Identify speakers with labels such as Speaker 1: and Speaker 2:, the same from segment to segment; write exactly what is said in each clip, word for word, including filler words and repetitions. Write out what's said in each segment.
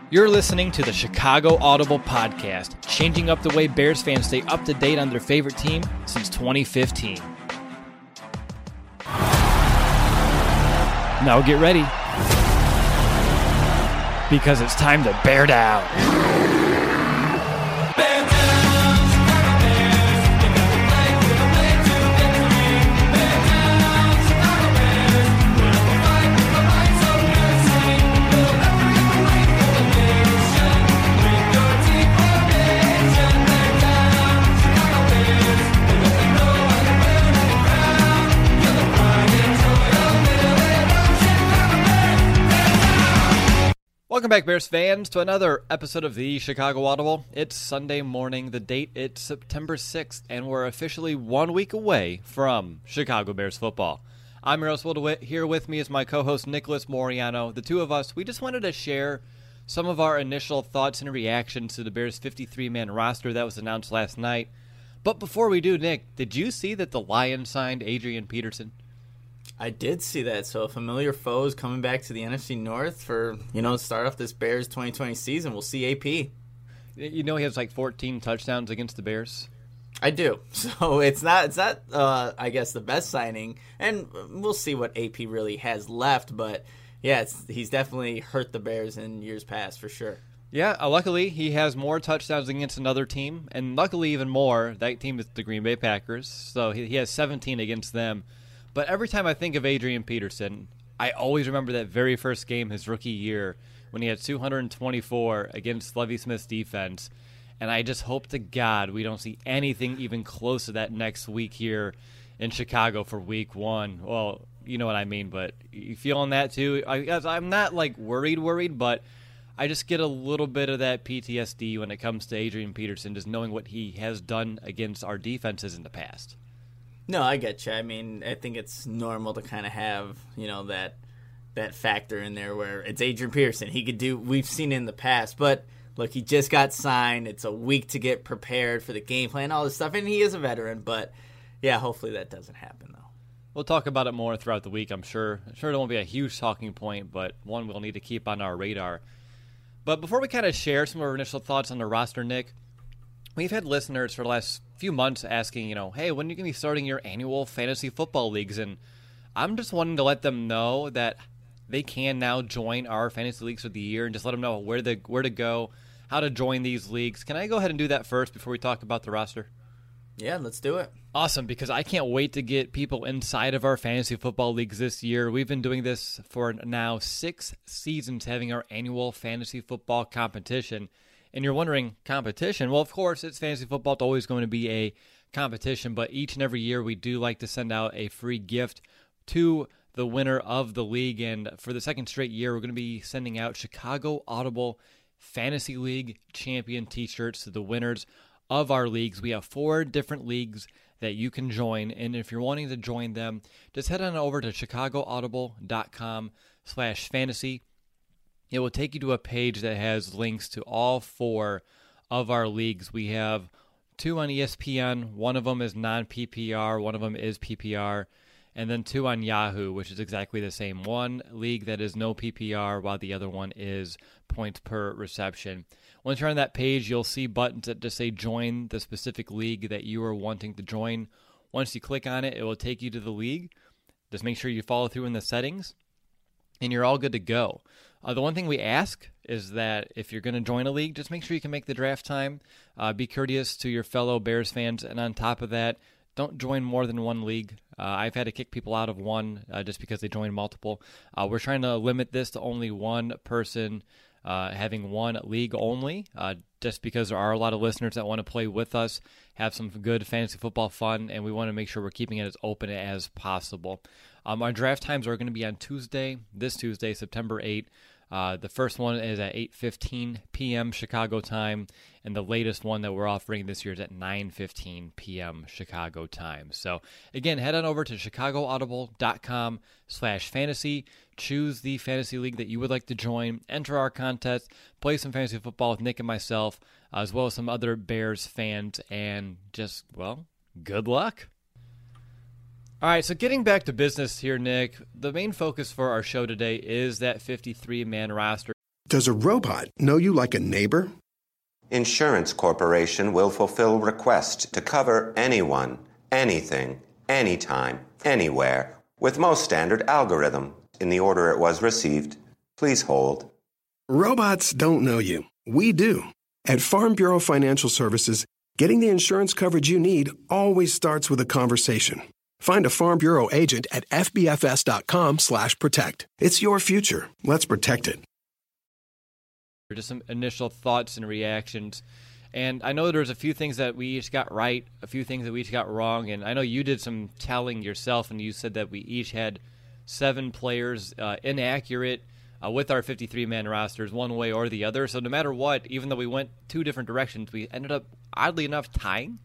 Speaker 1: You're listening to the Chicago Audible Podcast, changing up the way Bears fans stay up to date on their favorite team since twenty fifteen. Now get ready, because it's time to bear down. Welcome back, Bears fans, to another episode of the Chicago Audible. It's Sunday morning, the date it's September sixth, and we're officially one week away from Chicago Bears football. I'm Eros DeWitt. Here with me is my co-host Nicholas Moriano. The two of us, we just wanted to share some of our initial thoughts and reactions to the Bears' fifty-three man roster that was announced last night. But before we do, Nick, did you see that the Lions signed Adrian Peterson?
Speaker 2: I did see that. So familiar foes coming back to the N F C North for, you know, start off this Bears twenty twenty season. We'll see A P.
Speaker 1: You know he has like fourteen touchdowns against the Bears?
Speaker 2: I do. So it's not, it's not uh, I guess, the best signing. And we'll see what A P really has left. But, yeah, it's, he's definitely hurt the Bears in years past for sure.
Speaker 1: Yeah, uh, luckily he has more touchdowns against another team. And luckily even more, that team is the Green Bay Packers. So he, he has seventeen against them. But every time I think of Adrian Peterson, I always remember that very first game his rookie year when he had two hundred twenty-four against Lovie Smith's defense. And I just hope to God we don't see anything even close to that next week here in Chicago for week one. Well, you know what I mean, but you feeling that too? I guess I'm not like worried, worried, but I just get a little bit of that P T S D when it comes to Adrian Peterson, just knowing what he has done against our defenses in the past.
Speaker 2: No, I get you. I mean, I think it's normal to kind of have, you know, that that factor in there where it's Adrian Peterson. He could do, we've seen it in the past, but look, he just got signed. It's a week to get prepared for the game plan, all this stuff, and he is a veteran, but yeah, hopefully that doesn't happen, though.
Speaker 1: We'll talk about it more throughout the week, I'm sure. I'm sure it won't be a huge talking point, but one we'll need to keep on our radar. But before we kind of share some of our initial thoughts on the roster, Nick, we've had listeners for the last few months asking, you know, hey, when are you going to be starting your annual fantasy football leagues? And I'm just wanting to let them know that they can now join our fantasy leagues for the year and just let them know where to, where to go, how to join these leagues. Can I go ahead and do that first before we talk about the roster?
Speaker 2: Yeah, let's do it.
Speaker 1: Awesome, because I can't wait to get people inside of our fantasy football leagues this year. We've been doing this for now six seasons, having our annual fantasy football competition. And you're wondering, competition? Well, of course, it's fantasy football. It's always going to be a competition, but each and every year we do like to send out a free gift to the winner of the league. And for the second straight year, we're going to be sending out Chicago Audible Fantasy League Champion t-shirts to the winners of our leagues. We have four different leagues that you can join, and if you're wanting to join them, just head on over to chicagoaudible.com slash fantasy. It will take you to a page that has links to all four of our leagues. We have two on E S P N. One of them is non-P P R. One of them is P P R. And then two on Yahoo, which is exactly the same. One league that is no P P R, while the other one is points per reception. Once you're on that page, you'll see buttons that just say join the specific league that you are wanting to join. Once you click on it, it will take you to the league. Just make sure you follow through in the settings, and you're all good to go. Uh, the one thing we ask is that if you're going to join a league, just make sure you can make the draft time. Uh, be courteous to your fellow Bears fans. And on top of that, don't join more than one league. Uh, I've had to kick people out of one uh, just because they joined multiple. Uh, we're trying to limit this to only one person uh, having one league only, uh, just because there are a lot of listeners that want to play with us, have some good fantasy football fun, and we want to make sure we're keeping it as open as possible. Um, our draft times are going to be on Tuesday, this Tuesday, September eighth. Uh, the first one is at eight fifteen p.m. Chicago time, and the latest one that we're offering this year is at nine fifteen p.m. Chicago time. So, again, head on over to chicagoaudible.com slash fantasy. Choose the fantasy league that you would like to join. Enter our contest. Play some fantasy football with Nick and myself, uh, as well as some other Bears fans. And just, well, good luck. All right, so getting back to business here, Nick, the main focus for our show today is that fifty-three man roster.
Speaker 3: Does a robot know you like a neighbor?
Speaker 4: Insurance Corporation will fulfill requests to cover anyone, anything, anytime, anywhere, with most standard algorithm in the order it was received. Please hold.
Speaker 3: Robots don't know you. We do. At Farm Bureau Financial Services, getting the insurance coverage you need always starts with a conversation. Find a Farm Bureau agent at fbfs.com slash protect. It's your future. Let's protect it.
Speaker 1: Just some initial thoughts and reactions. And I know there's a few things that we each got right, a few things that we each got wrong. And I know you did some telling yourself, and you said that we each had seven players uh, inaccurate uh, with our fifty-three man rosters one way or the other. So no matter what, even though we went two different directions, we ended up, oddly enough, tying.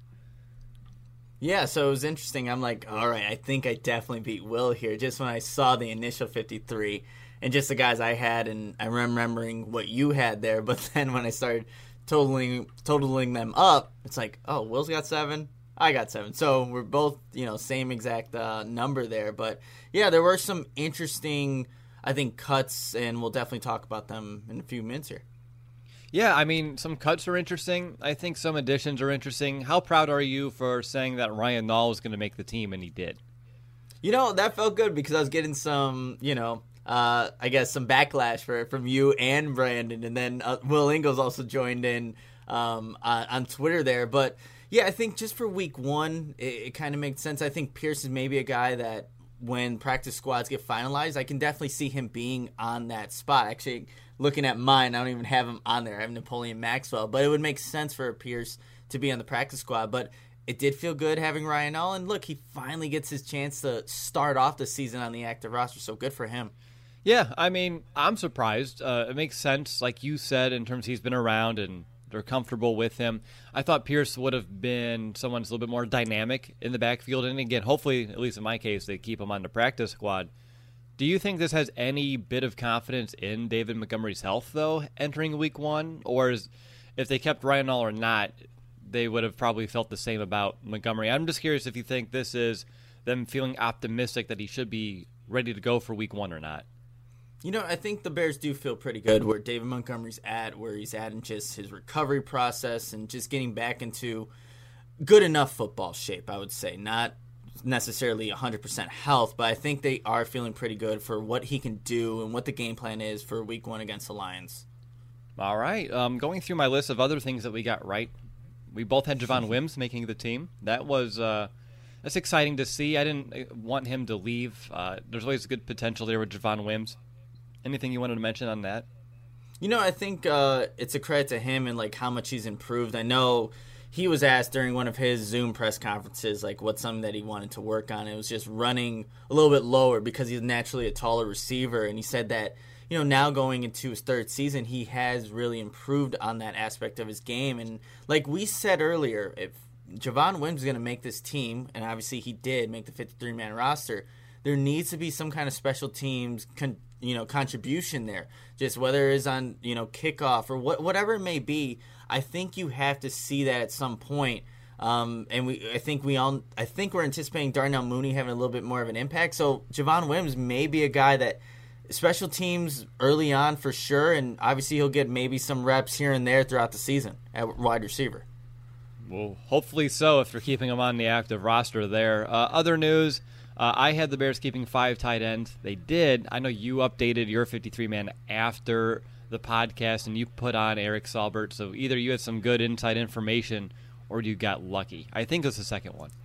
Speaker 2: Yeah, so it was interesting. I'm like, all right, I think I definitely beat Will here just when I saw the initial fifty-three and just the guys I had, and I'm remembering what you had there. But then when I started totaling totaling them up, it's like, oh, Will's got seven, I got seven. So we're both, you know, same exact uh, number there. But, yeah, there were some interesting, I think, cuts, and we'll definitely talk about them in a few minutes here.
Speaker 1: Yeah, I mean, some cuts are interesting. I think some additions are interesting. How proud are you for saying that Ryan Nall was going to make the team, and he did?
Speaker 2: You know, that felt good because I was getting some, you know, uh, I guess some backlash for from you and Brandon, and then uh, Will Ingles also joined in um, on, on Twitter there. But, yeah, I think just for week one, it, it kind of makes sense. I think Pierce is maybe a guy that when practice squads get finalized, I can definitely see him being on that spot. Actually, looking at mine, I don't even have him on there. I have Napoleon Maxwell, but it would make sense for Pierce to be on the practice squad. But it did feel good having Ryan Nall, and look, he finally gets his chance to start off the season on the active roster, so good for him.
Speaker 1: Yeah, I mean, I'm surprised. Uh, it makes sense, like you said, in terms he's been around and they're comfortable with him. I thought Pierce would have been someone who's a little bit more dynamic in the backfield, and again, hopefully, at least in my case, they keep him on the practice squad. Do you think this has any bit of confidence in David Montgomery's health, though, entering week one? Or is, if they kept Ryan Nall or not, they would have probably felt the same about Montgomery? I'm just curious if you think this is them feeling optimistic that he should be ready to go for week one or not.
Speaker 2: You know, I think the Bears do feel pretty good where David Montgomery's at, where he's at in just his recovery process and just getting back into good enough football shape, I would say. Not necessarily one hundred percent health, but I think they are feeling pretty good for what he can do and what the game plan is for week one against the Lions.
Speaker 1: All right. Um, going through my list of other things that we got right, we both had Javon Wims making the team. That was uh, that's exciting to see. I didn't want him to leave. Uh, there's always good potential there with Javon Wims. Anything you wanted to mention on that?
Speaker 2: You know, I think uh, it's a credit to him and like how much he's improved. I know he was asked during one of his Zoom press conferences, like what's something that he wanted to work on. It was just running a little bit lower because he's naturally a taller receiver. And he said that, you know, now going into his third season, he has really improved on that aspect of his game. And like we said earlier, if Javon Wims is going to make this team, and obviously he did make the fifty-three man roster, there needs to be some kind of special teams con- you know, contribution there. Just whether it is on, you know, kickoff or what, whatever it may be, I think you have to see that at some point. Um, and we, I think we all, I think we're anticipating Darnell Mooney having a little bit more of an impact. So Javon Wims may be a guy that special teams early on for sure, and obviously he'll get maybe some reps here and there throughout the season at wide receiver.
Speaker 1: Well, hopefully so if they're keeping him on the active roster there. Uh, other news. Uh, I had the Bears keeping five tight ends. They did. I know you updated your fifty-three man after the podcast, and you put on Eric Saubert. So either you had some good inside information or you got lucky. I think it was the second one.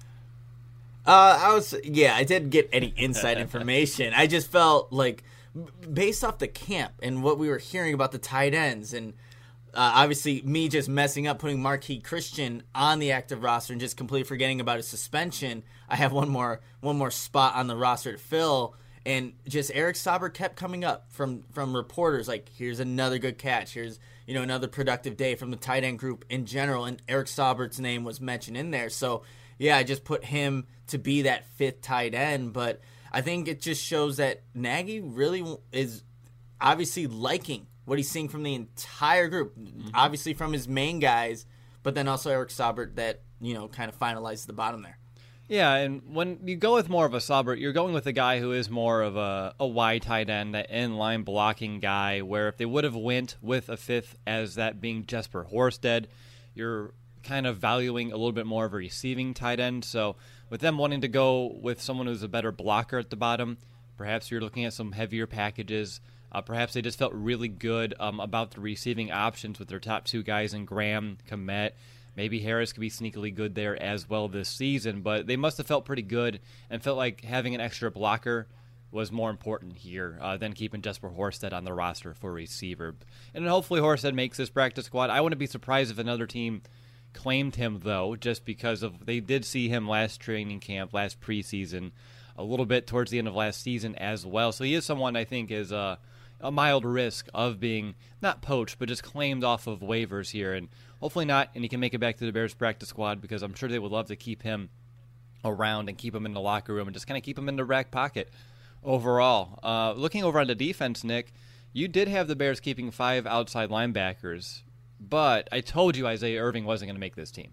Speaker 2: Uh, I was, yeah, I didn't get any inside information. I just felt like based off the camp and what we were hearing about the tight ends and Uh, obviously, me just messing up, putting Marquis Christian on the active roster and just completely forgetting about his suspension. I have one more one more spot on the roster to fill, and just Eric Saubert kept coming up from, from reporters like, here's another good catch, here's you know another productive day from the tight end group in general, and Eric Saubert's name was mentioned in there. So, yeah, I just put him to be that fifth tight end, but I think it just shows that Nagy really is obviously liking what he's seeing from the entire group, mm-hmm. obviously from his main guys, but then also Eric Saubert that, you know, kind of finalizes the bottom there.
Speaker 1: Yeah, and when you go with more of a Saubert, you're going with a guy who is more of a, a wide tight end, that in-line blocking guy, where if they would have went with a fifth as that being Jesper Horsted, you're kind of valuing a little bit more of a receiving tight end. So with them wanting to go with someone who's a better blocker at the bottom, perhaps you're looking at some heavier packages. Uh, perhaps they just felt really good um, about the receiving options with their top two guys in Graham, Kmet. Maybe Harris could be sneakily good there as well this season, but they must have felt pretty good and felt like having an extra blocker was more important here uh, than keeping Jesper Horsted on the roster for receiver. And hopefully Horsted makes this practice squad. I wouldn't be surprised if another team claimed him, though, just because of they did see him last training camp, last preseason, a little bit towards the end of last season as well. So he is someone I think is uh, a mild risk of being not poached, but just claimed off of waivers here. And hopefully not, and he can make it back to the Bears practice squad, because I'm sure they would love to keep him around and keep him in the locker room and just kind of keep him in the back pocket overall. Uh, looking over on the defense, Nick, you did have the Bears keeping five outside linebackers, but I told you Isaiah Irving wasn't going to make this team.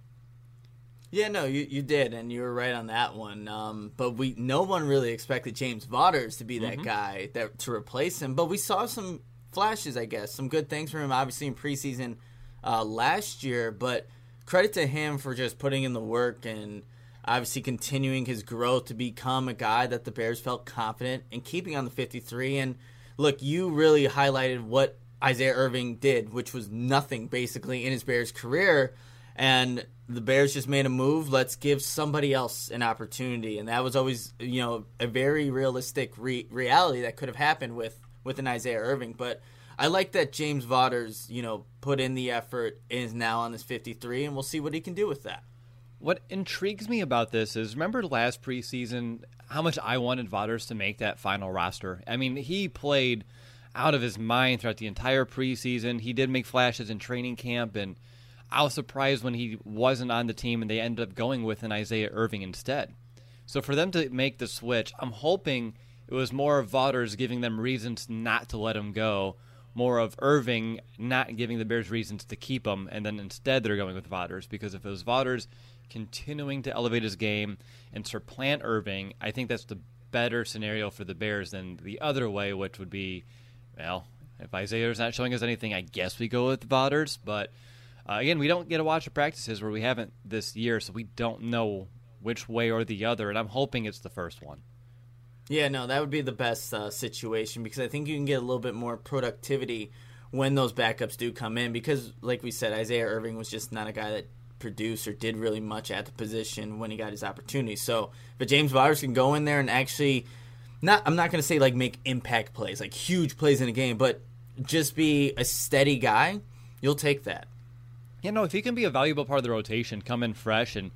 Speaker 2: Yeah, no, you, you did, and you were right on that one. Um, but we no one really expected James Vaughters to be that mm-hmm. guy that to replace him. But we saw some flashes, I guess, some good things from him, obviously in preseason uh, last year. But credit to him for just putting in the work and obviously continuing his growth to become a guy that the Bears felt confident in keeping on the fifty-three. And look, you really highlighted what Isaiah Irving did, which was nothing basically in his Bears career. And the Bears just made a move. Let's give somebody else an opportunity. And that was always, you know, a very realistic re- reality that could have happened with, with an Isaiah Irving. But I like that James Vaughters, you know, put in the effort, is now on this fifty-three, and we'll see what he can do with that.
Speaker 1: What intrigues me about this is, remember last preseason how much I wanted Vaughters to make that final roster? I mean, he played out of his mind throughout the entire preseason. He did make flashes in training camp, and I was surprised when he wasn't on the team and they ended up going with an Isaiah Irving instead. So for them to make the switch, I'm hoping it was more of Vaughters giving them reasons not to let him go, more of Irving not giving the Bears reasons to keep him, and then instead they're going with Vaughters. Because if it was Vaughters continuing to elevate his game and supplant Irving, I think that's the better scenario for the Bears than the other way, which would be, well, if Isaiah's not showing us anything, I guess we go with Vaughters. But uh, again, we don't get to watch the practices where we haven't this year, so we don't know which way or the other, and I'm hoping it's the first one.
Speaker 2: Yeah, no, that would be the best uh, situation, because I think you can get a little bit more productivity when those backups do come in, because, like we said, Isaiah Irving was just not a guy that produced or did really much at the position when he got his opportunity. So, but James Vaughters can go in there and actually, not I'm not going to say like make impact plays, like huge plays in a game, but just be a steady guy, you'll take that.
Speaker 1: You know, if he can be a valuable part of the rotation, come in fresh and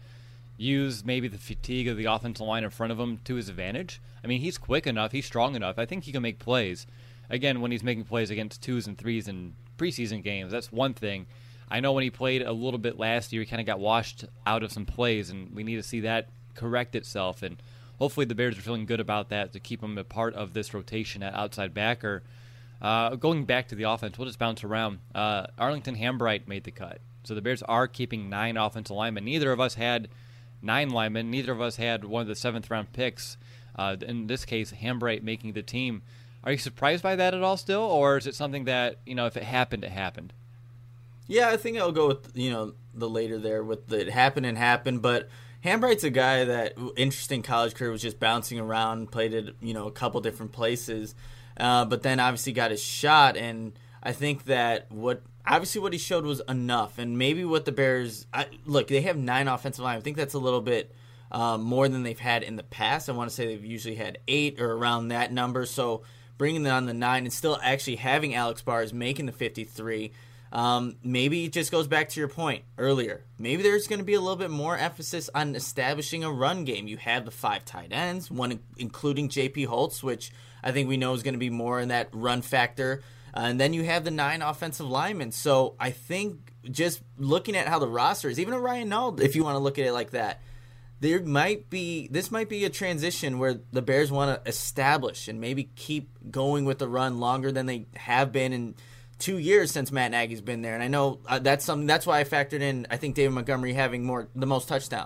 Speaker 1: use maybe the fatigue of the offensive line in front of him to his advantage. I mean, he's quick enough, he's strong enough. I think he can make plays. Again, when he's making plays against twos and threes in preseason games, that's one thing. I know when he played a little bit last year, he kind of got washed out of some plays, and we need to see that correct itself. And hopefully the Bears are feeling good about that to keep him a part of this rotation at outside backer. Uh, going back to the offense, we'll just bounce around. Uh, Arlington Hambright made the cut. So the Bears are keeping nine offensive linemen. Neither of us had nine linemen. Neither of us had one of the seventh-round picks. Uh, in this case, Hambright making the team. Are you surprised by that at all still, or is it something that, you know, if it happened, it happened?
Speaker 2: Yeah, I think I'll go with, you know, the later there with the it happened and happened. But Hambright's a guy that, interesting college career, was just bouncing around, played at, you know, a couple different places, uh, but then obviously got his shot. And I think that what obviously what he showed was enough. And maybe what the Bears I, look, they have nine offensive line. I think that's a little bit um, more than they've had in the past. I want to say they've usually had eight or around that number. So bringing them on the nine and still actually having Alex Bars making the fifty-three. Um, maybe it just goes back to your point earlier. Maybe there's going to be a little bit more emphasis on establishing a run game. You have the five tight ends, one including J P Holtz, which I think we know is going to be more in that run factor. Uh, and then you have the nine offensive linemen. So I think just looking at how the roster is, even a Ryan Nall, if you want to look at it like that, there might be this might be a transition where the Bears want to establish and maybe keep going with the run longer than they have been in two years since Matt Nagy's been there. And I know uh, that's something that's why I factored in, I think, David Montgomery having more the most touchdowns.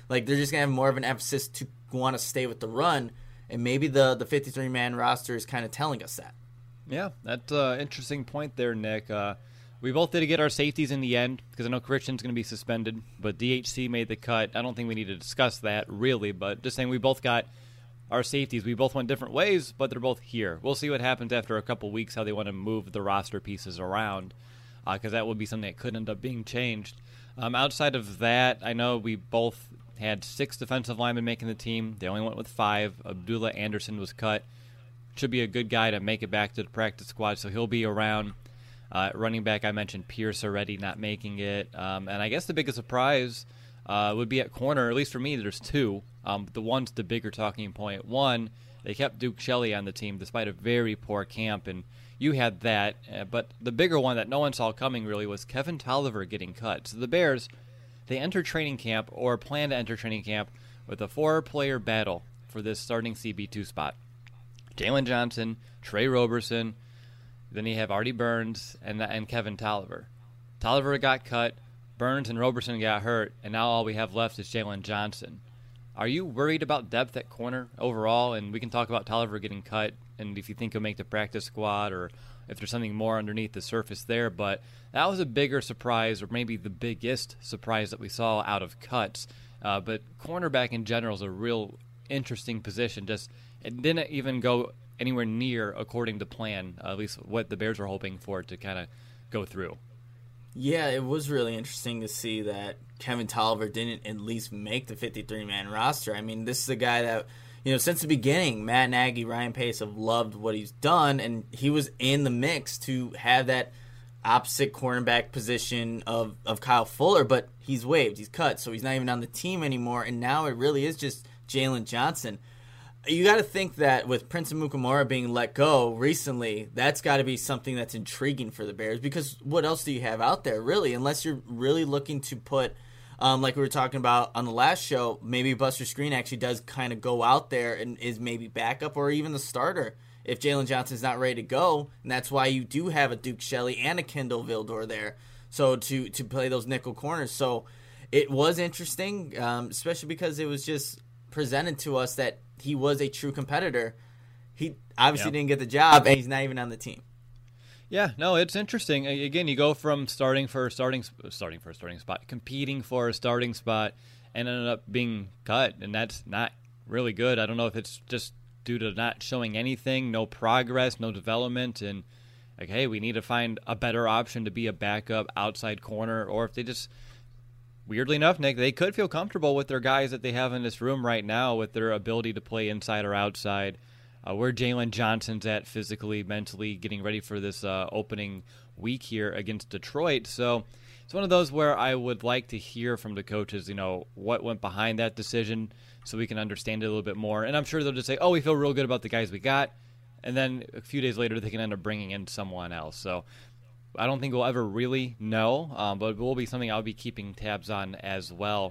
Speaker 2: Like, they're just going to have more of an emphasis to want to stay with the run, and maybe the the fifty-three man roster is kind of telling us that.
Speaker 1: Yeah, that's an interesting point there, Nick. Uh, we both did get our safeties in the end because I know Christian's going to be suspended, but D H C made the cut. I don't think we need to discuss that, really, but just saying we both got our safeties. We both went different ways, but they're both here. We'll see what happens after a couple weeks, how they want to move the roster pieces around, because uh, that would be something that could end up being changed. Um, outside of that, I know we both had six defensive linemen making the team. They only went with five. Abdullah Anderson was cut. Should be a good guy to make it back to the practice squad, so he'll be around. Uh, running back, I mentioned Pierce already not making it. Um, and I guess the biggest surprise uh, would be at corner, at least for me, there's two. Um, the one's the bigger talking point. One, they kept Duke Shelley on the team despite a very poor camp, and you had that. Uh, but the bigger one that no one saw coming really was Kevin Tolliver getting cut. So the Bears, they entered training camp, or plan to enter training camp, with a four-player battle for this starting C B two spot. Jalen Johnson, Trey Roberson, then you have Artie Burns and and Kevin Tolliver. Tolliver got cut, Burns and Roberson got hurt, and now all we have left is Jalen Johnson. Are you worried about depth at corner overall? And we can talk about Tolliver getting cut, and if you think he'll make the practice squad, or if there's something more underneath the surface there. But that was a bigger surprise, or maybe the biggest surprise that we saw out of cuts. Uh, but cornerback in general is a real interesting position. Just it didn't even go anywhere near according to plan, uh, at least what the Bears were hoping for it to kind of go through.
Speaker 2: Yeah, it was really interesting to see that Kevin Tolliver didn't at least make the fifty-three man roster. I mean, this is a guy that, you know, since the beginning, Matt Nagy, Ryan Pace have loved what he's done, and he was in the mix to have that opposite cornerback position of, of Kyle Fuller, but he's waived, he's cut, so he's not even on the team anymore, and now it really is just Jalen Johnson. You got to think that with Prince Amukamara being let go recently, that's got to be something that's intriguing for the Bears, because what else do you have out there, really? Unless you're really looking to put, um, like we were talking about on the last show, maybe Buster Skrine actually does kind of go out there and is maybe backup or even the starter if Jalen Johnson's not ready to go, and that's why you do have a Duke Shelley and a Kendall Vildor there, so to, to play those nickel corners. So it was interesting, um, especially because it was just presented to us that he was a true competitor. He obviously
Speaker 1: yeah.
Speaker 2: didn't get the job, and he's not even on the team.
Speaker 1: Yeah, no, it's interesting. Again, you go from starting for a starting starting for a starting spot, competing for a starting spot, and ended up being cut, and that's not really good. I don't know if it's just due to not showing anything, no progress, no development, and like, hey, we need to find a better option to be a backup outside corner, or if they just, weirdly enough, Nick, they could feel comfortable with their guys that they have in this room right now with their ability to play inside or outside. Uh, where Jalen Johnson's at physically, mentally, getting ready for this uh, opening week here against Detroit. So it's one of those where I would like to hear from the coaches, you know, what went behind that decision so we can understand it a little bit more. And I'm sure they'll just say, oh, we feel real good about the guys we got. And then a few days later, they can end up bringing in someone else. So I don't think we'll ever really know, um, but it will be something I'll be keeping tabs on as well.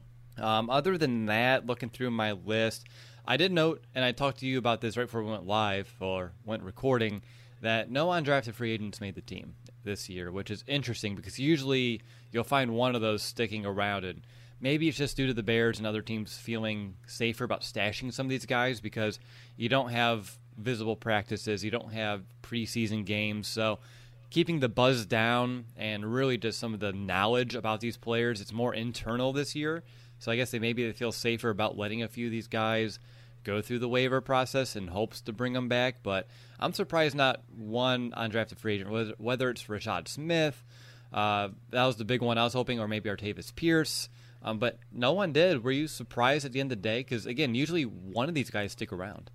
Speaker 1: Um, other than that, looking through my list, I did note, and I talked to you about this right before we went live or went recording, that no undrafted free agents made the team this year, which is interesting because usually you'll find one of those sticking around, and maybe it's just due to the Bears and other teams feeling safer about stashing some of these guys because you don't have visible practices, you don't have preseason games, so keeping the buzz down and really just some of the knowledge about these players, it's more internal this year. So I guess they maybe they feel safer about letting a few of these guys go through the waiver process in hopes to bring them back. But I'm surprised not one undrafted free agent, whether, whether it's Rashad Smith, uh, that was the big one I was hoping, or maybe Artavis Pierce. Um, but no one did. Were you surprised at the end of the day? Because, again, usually one of these guys stick around.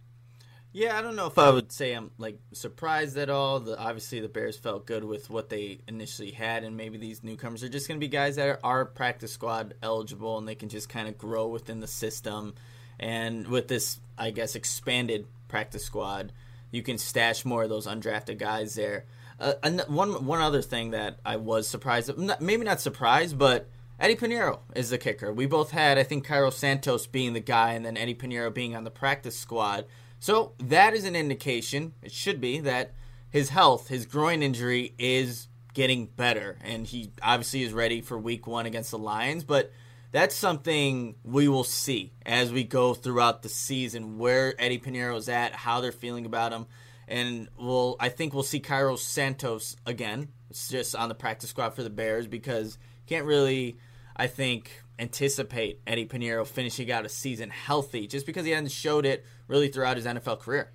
Speaker 2: Yeah, I don't know if I would say I'm like surprised at all. The, obviously, the Bears felt good with what they initially had, and maybe these newcomers are just going to be guys that are, are practice squad eligible, and they can just kind of grow within the system. And with this, I guess, expanded practice squad, you can stash more of those undrafted guys there. Uh, and one one other thing that I was surprised, maybe not surprised, but Eddie Pinheiro is the kicker. We both had, I think, Cairo Santos being the guy, and then Eddie Pinheiro being on the practice squad. So that is an indication, it should be, that his health, his groin injury is getting better. And he obviously is ready for week one against the Lions. But that's something we will see as we go throughout the season, where Eddie Piñeiro's at, how they're feeling about him. And we'll, I think we'll see Cairo Santos again. It's just on the practice squad for the Bears because you can't really, I think, anticipate Eddie Piñeiro finishing out a season healthy just because he hasn't showed it really throughout his N F L career.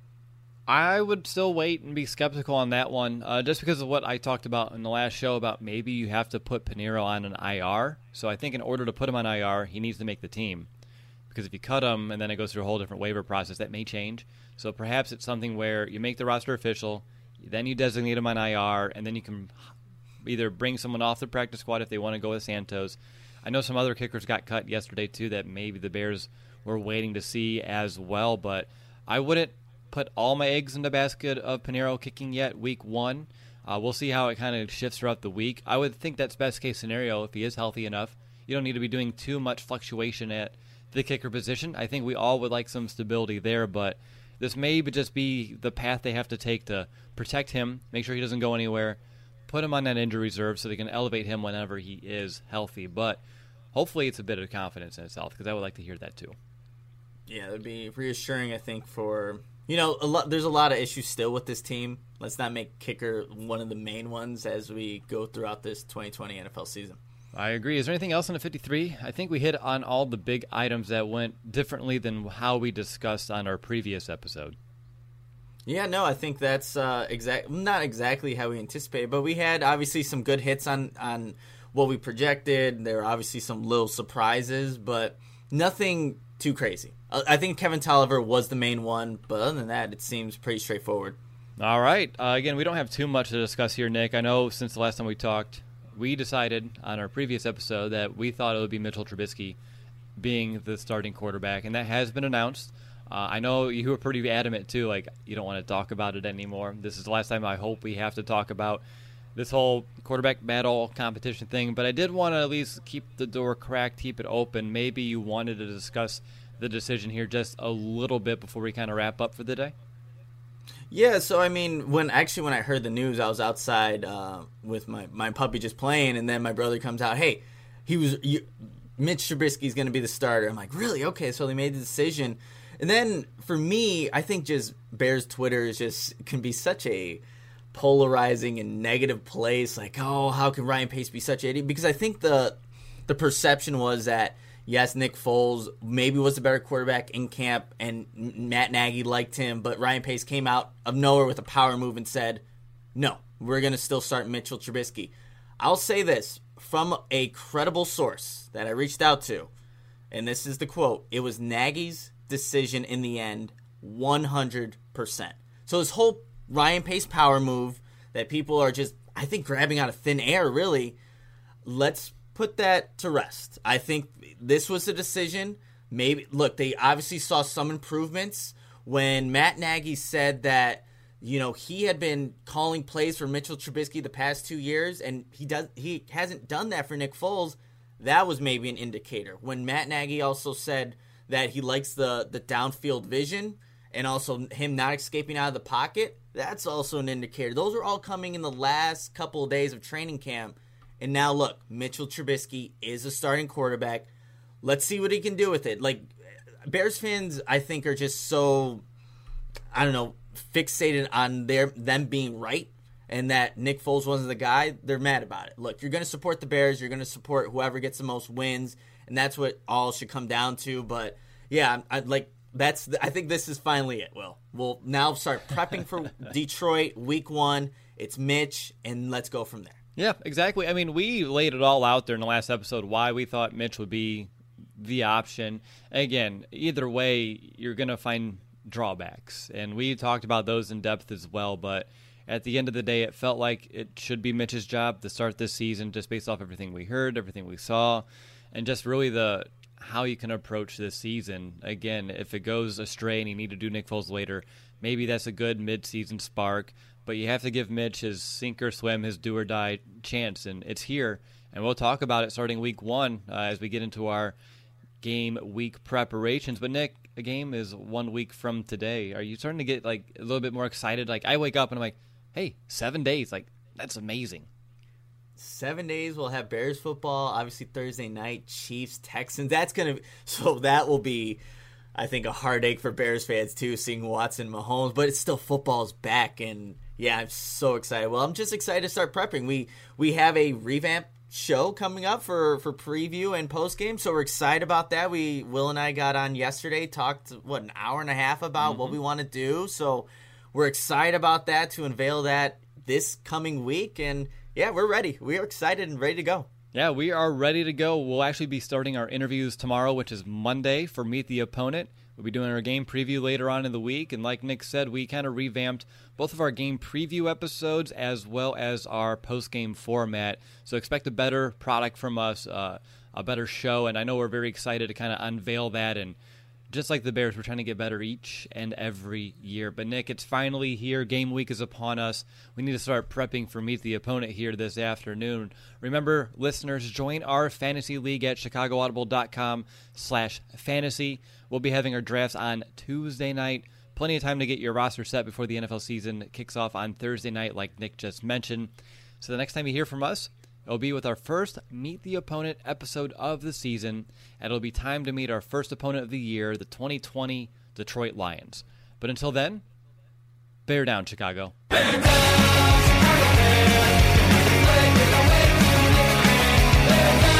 Speaker 1: I would still wait and be skeptical on that one, uh, just because of what I talked about in the last show about maybe you have to put Piñeiro on an I R. So I think in order to put him on I R, he needs to make the team. Because if you cut him and then it goes through a whole different waiver process, that may change. So perhaps it's something where you make the roster official, then you designate him on I R, and then you can either bring someone off the practice squad if they want to go with Santos. I know some other kickers got cut yesterday too that maybe the Bears were waiting to see as well, but I wouldn't put all my eggs in the basket of Piñeiro kicking yet week one. Uh, we'll see how it kind of shifts throughout the week. I would think that's best case scenario if he is healthy enough. You don't need to be doing too much fluctuation at the kicker position. I think we all would like some stability there, but this may just be the path they have to take to protect him, make sure he doesn't go anywhere, put him on that injury reserve so they can elevate him whenever he is healthy. But hopefully it's a bit of confidence in itself because I would like to hear that too.
Speaker 2: Yeah, it would be reassuring, I think, for... You know, a lot, there's a lot of issues still with this team. Let's not make kicker one of the main ones as we go throughout this twenty twenty N F L season.
Speaker 1: I agree. Is there anything else on the fifty-three? I think we hit on all the big items that went differently than how we discussed on our previous episode.
Speaker 2: Yeah, no, I think that's uh, exact, not exactly how we anticipated, but we had obviously some good hits on, on what we projected. There were obviously some little surprises, but nothing too crazy. I think Kevin Tolliver was the main one, but other than that, it seems pretty straightforward.
Speaker 1: All right. Uh, again, we don't have too much to discuss here, Nick. I know since the last time we talked, we decided on our previous episode that we thought it would be Mitchell Trubisky being the starting quarterback, and that has been announced. Uh, I know you were pretty adamant, too, like you don't want to talk about it anymore. This is the last time I hope we have to talk about this whole quarterback battle competition thing, but I did want to at least keep the door cracked, keep it open. Maybe you wanted to discuss the decision here just a little bit before we kind of wrap up for the day?
Speaker 2: Yeah, so I mean, when actually when I heard the news, I was outside uh, with my, my puppy just playing, and then my brother comes out, hey, he was you, Mitch Trubisky's going to be the starter. I'm like, really? Okay, so they made the decision. And then for me, I think just Bears Twitter is just can be such a polarizing and negative place. Like, oh, how can Ryan Pace be such an idiot? Because I think the the perception was that, yes, Nick Foles maybe was the better quarterback in camp, and Matt Nagy liked him, but Ryan Pace came out of nowhere with a power move and said, no, we're going to still start Mitchell Trubisky. I'll say this from a credible source that I reached out to, and this is the quote, it was Nagy's decision in the end, one hundred percent. So this whole Ryan Pace power move that people are just, I think, grabbing out of thin air, really, let's put that to rest. I think this was a decision. Maybe look, they obviously saw some improvements when Matt Nagy said that, you know, he had been calling plays for Mitchell Trubisky the past two years, and he does he hasn't done that for Nick Foles. That was maybe an indicator. When Matt Nagy also said that he likes the the downfield vision and also him not escaping out of the pocket, that's also an indicator. Those are all coming in the last couple of days of training camp. And now, look, Mitchell Trubisky is a starting quarterback. Let's see what he can do with it. Like, Bears fans, I think, are just so, I don't know, fixated on their them being right and that Nick Foles wasn't the guy. They're mad about it. Look, you're going to support the Bears. You're going to support whoever gets the most wins, and that's what all should come down to. But, yeah, I, like, that's. I think this is finally it, Will. We'll now start prepping for Detroit week one. It's Mitch, and let's go from there.
Speaker 1: Yeah, exactly. I mean, we laid it all out there in the last episode why we thought Mitch would be the option. Again, either way, you're going to find drawbacks. And we talked about those in depth as well. But at the end of the day, it felt like it should be Mitch's job to start this season just based off everything we heard, everything we saw, and just really the how you can approach this season. Again, if it goes astray and you need to do Nick Foles later, maybe that's a good mid-season spark. But you have to give Mitch his sink or swim, his do or die chance, and it's here. And we'll talk about it starting week one uh, as we get into our game week preparations. But Nick, a game is one week from today. Are you starting to get like a little bit more excited? Like I wake up and I'm like, hey, seven days, like that's amazing.
Speaker 2: Seven days we'll have Bears football. Obviously Thursday night, Chiefs, Texans. That's gonna so that will be, I think, a heartache for Bears fans too, seeing Watson, Mahomes. But it's still football's back, and yeah, I'm so excited. Well, I'm just excited to start prepping. We we have a revamped show coming up for for preview and post game, so we're excited about that. We Will and I got on yesterday, talked what an hour and a half about mm-hmm. what we want to do. So we're excited about that to unveil that this coming week, and yeah, we're ready. We are excited and ready to go.
Speaker 1: Yeah, we are ready to go. We'll actually be starting our interviews tomorrow, which is Monday, for Meet the Opponent. We'll be doing our game preview later on in the week, and like Nick said, we kind of revamped both of our game preview episodes as well as our post-game format. So expect a better product from us, uh, a better show, and I know we're very excited to kind of unveil that. And just like the Bears, we're trying to get better each and every year. But Nick, it's finally here. Game week is upon us. We need to start prepping for Meet the Opponent here this afternoon. Remember, listeners, join our fantasy league at chicagoaudible.com slash fantasy. We'll be having our drafts on Tuesday night. Plenty of time to get your roster set before the N F L season kicks off on Thursday night, like Nick just mentioned. So the next time you hear from us, it'll be with our first Meet the Opponent episode of the season, and it'll be time to meet our first opponent of the year, the twenty twenty Detroit Lions. But until then, bear down, Chicago. Bear down, Chicago Bears. Bear down.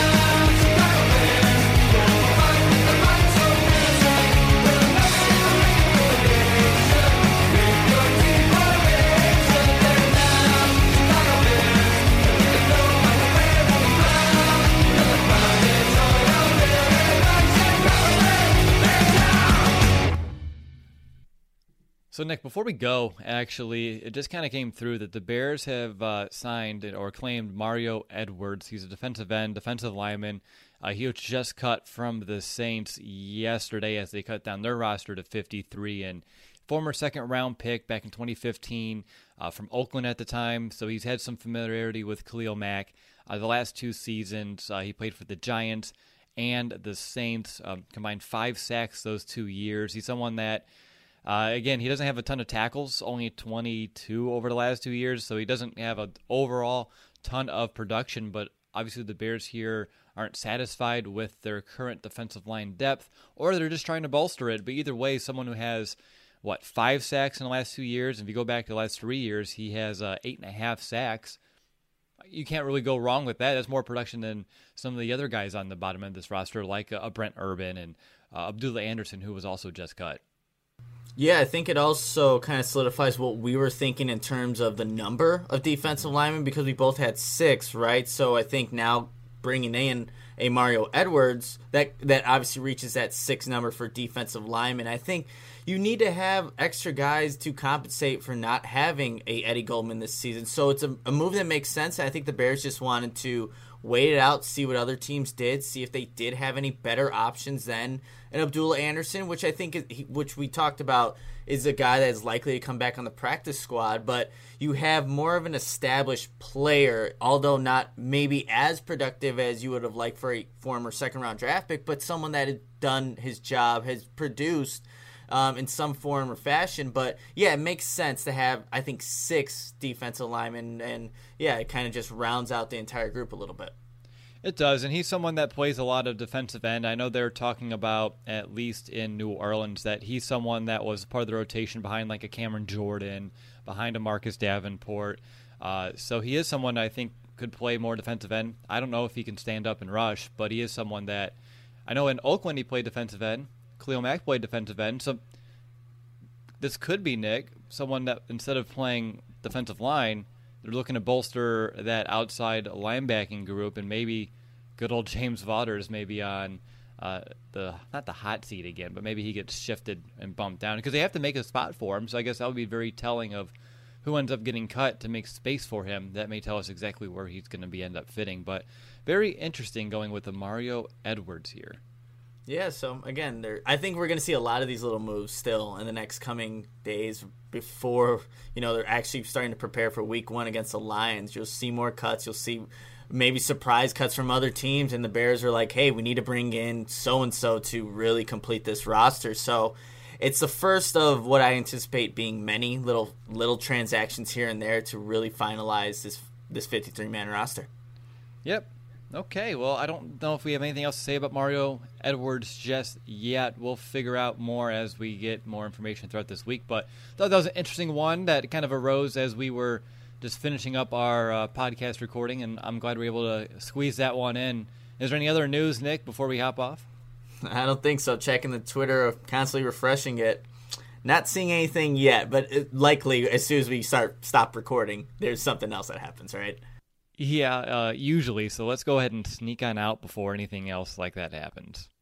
Speaker 1: So, Nick, before we go, actually, it just kind of came through that the Bears have uh, signed or claimed Mario Edwards. He's a defensive end, defensive lineman. Uh, he was just cut from the Saints yesterday as they cut down their roster to fifty-three. And former second-round pick back in twenty fifteen uh, from Oakland at the time. So he's had some familiarity with Khalil Mack. Uh, the last two seasons, uh, he played for the Giants and the Saints, um, combined five sacks those two years. He's someone that... Uh, again, he doesn't have a ton of tackles, only twenty-two over the last two years, so he doesn't have an overall ton of production, but obviously the Bears here aren't satisfied with their current defensive line depth, or they're just trying to bolster it. But either way, someone who has, what, five sacks in the last two years, if you go back to the last three years, he has uh, eight and a half sacks. You can't really go wrong with that. That's more production than some of the other guys on the bottom end of this roster, like uh, Brent Urban and uh, Abdullah Anderson, who was also just cut.
Speaker 2: Yeah, I think it also kind of solidifies what we were thinking in terms of the number of defensive linemen, because we both had six, right? So I think now bringing in a Mario Edwards, that that obviously reaches that six number for defensive linemen. I think you need to have extra guys to compensate for not having a Eddie Goldman this season. So it's a, a move that makes sense. I think the Bears just wanted to wait it out, see what other teams did, see if they did have any better options than an Abdullah Anderson, which I think, is, which we talked about, is a guy that is likely to come back on the practice squad. But you have more of an established player, although not maybe as productive as you would have liked for a former second-round draft pick, but someone that had done his job, has produced um, in some form or fashion. But, yeah, it makes sense to have, I think, six defensive linemen, and, yeah, it kind of just rounds out the entire group a little bit.
Speaker 1: It does, and he's someone that plays a lot of defensive end. I know they're talking about, at least in New Orleans, that he's someone that was part of the rotation behind like a Cameron Jordan, behind a Marcus Davenport. Uh, so he is someone I think could play more defensive end. I don't know if he can stand up and rush, but he is someone that, I know in Oakland he played defensive end. Khalil Mack played defensive end. So this could be, Nick, someone that instead of playing defensive line, they're looking to bolster that outside linebacking group, and maybe good old James Vaughters maybe on uh, the not the hot seat again, but maybe he gets shifted and bumped down because they have to make a spot for him. So I guess that would be very telling of who ends up getting cut to make space for him. That may tell us exactly where he's going to be end up fitting. But very interesting going with the Mario Edwards here.
Speaker 2: Yeah, so again, there. I think we're going to see a lot of these little moves still in the next coming days before, you know, they're actually starting to prepare for week one against the Lions. You'll see more cuts. You'll see maybe surprise cuts from other teams, and the Bears are like, hey, we need to bring in so-and-so to really complete this roster. So it's the first of what I anticipate being many little little transactions here and there to really finalize this this fifty-three man roster.
Speaker 1: Yep. Okay, well, I don't know if we have anything else to say about Mario Edwards just yet. We'll figure out more as we get more information throughout this week. But I thought that was an interesting one that kind of arose as we were just finishing up our uh, podcast recording, and I'm glad we were able to squeeze that one in. Is there any other news, Nick, before we hop off?
Speaker 2: I don't think so. Checking the Twitter, constantly refreshing it. Not seeing anything yet, but it, likely as soon as we start stop recording, there's something else that happens, right?
Speaker 1: Yeah, uh, usually. So let's go ahead and sneak on out before anything else like that happens.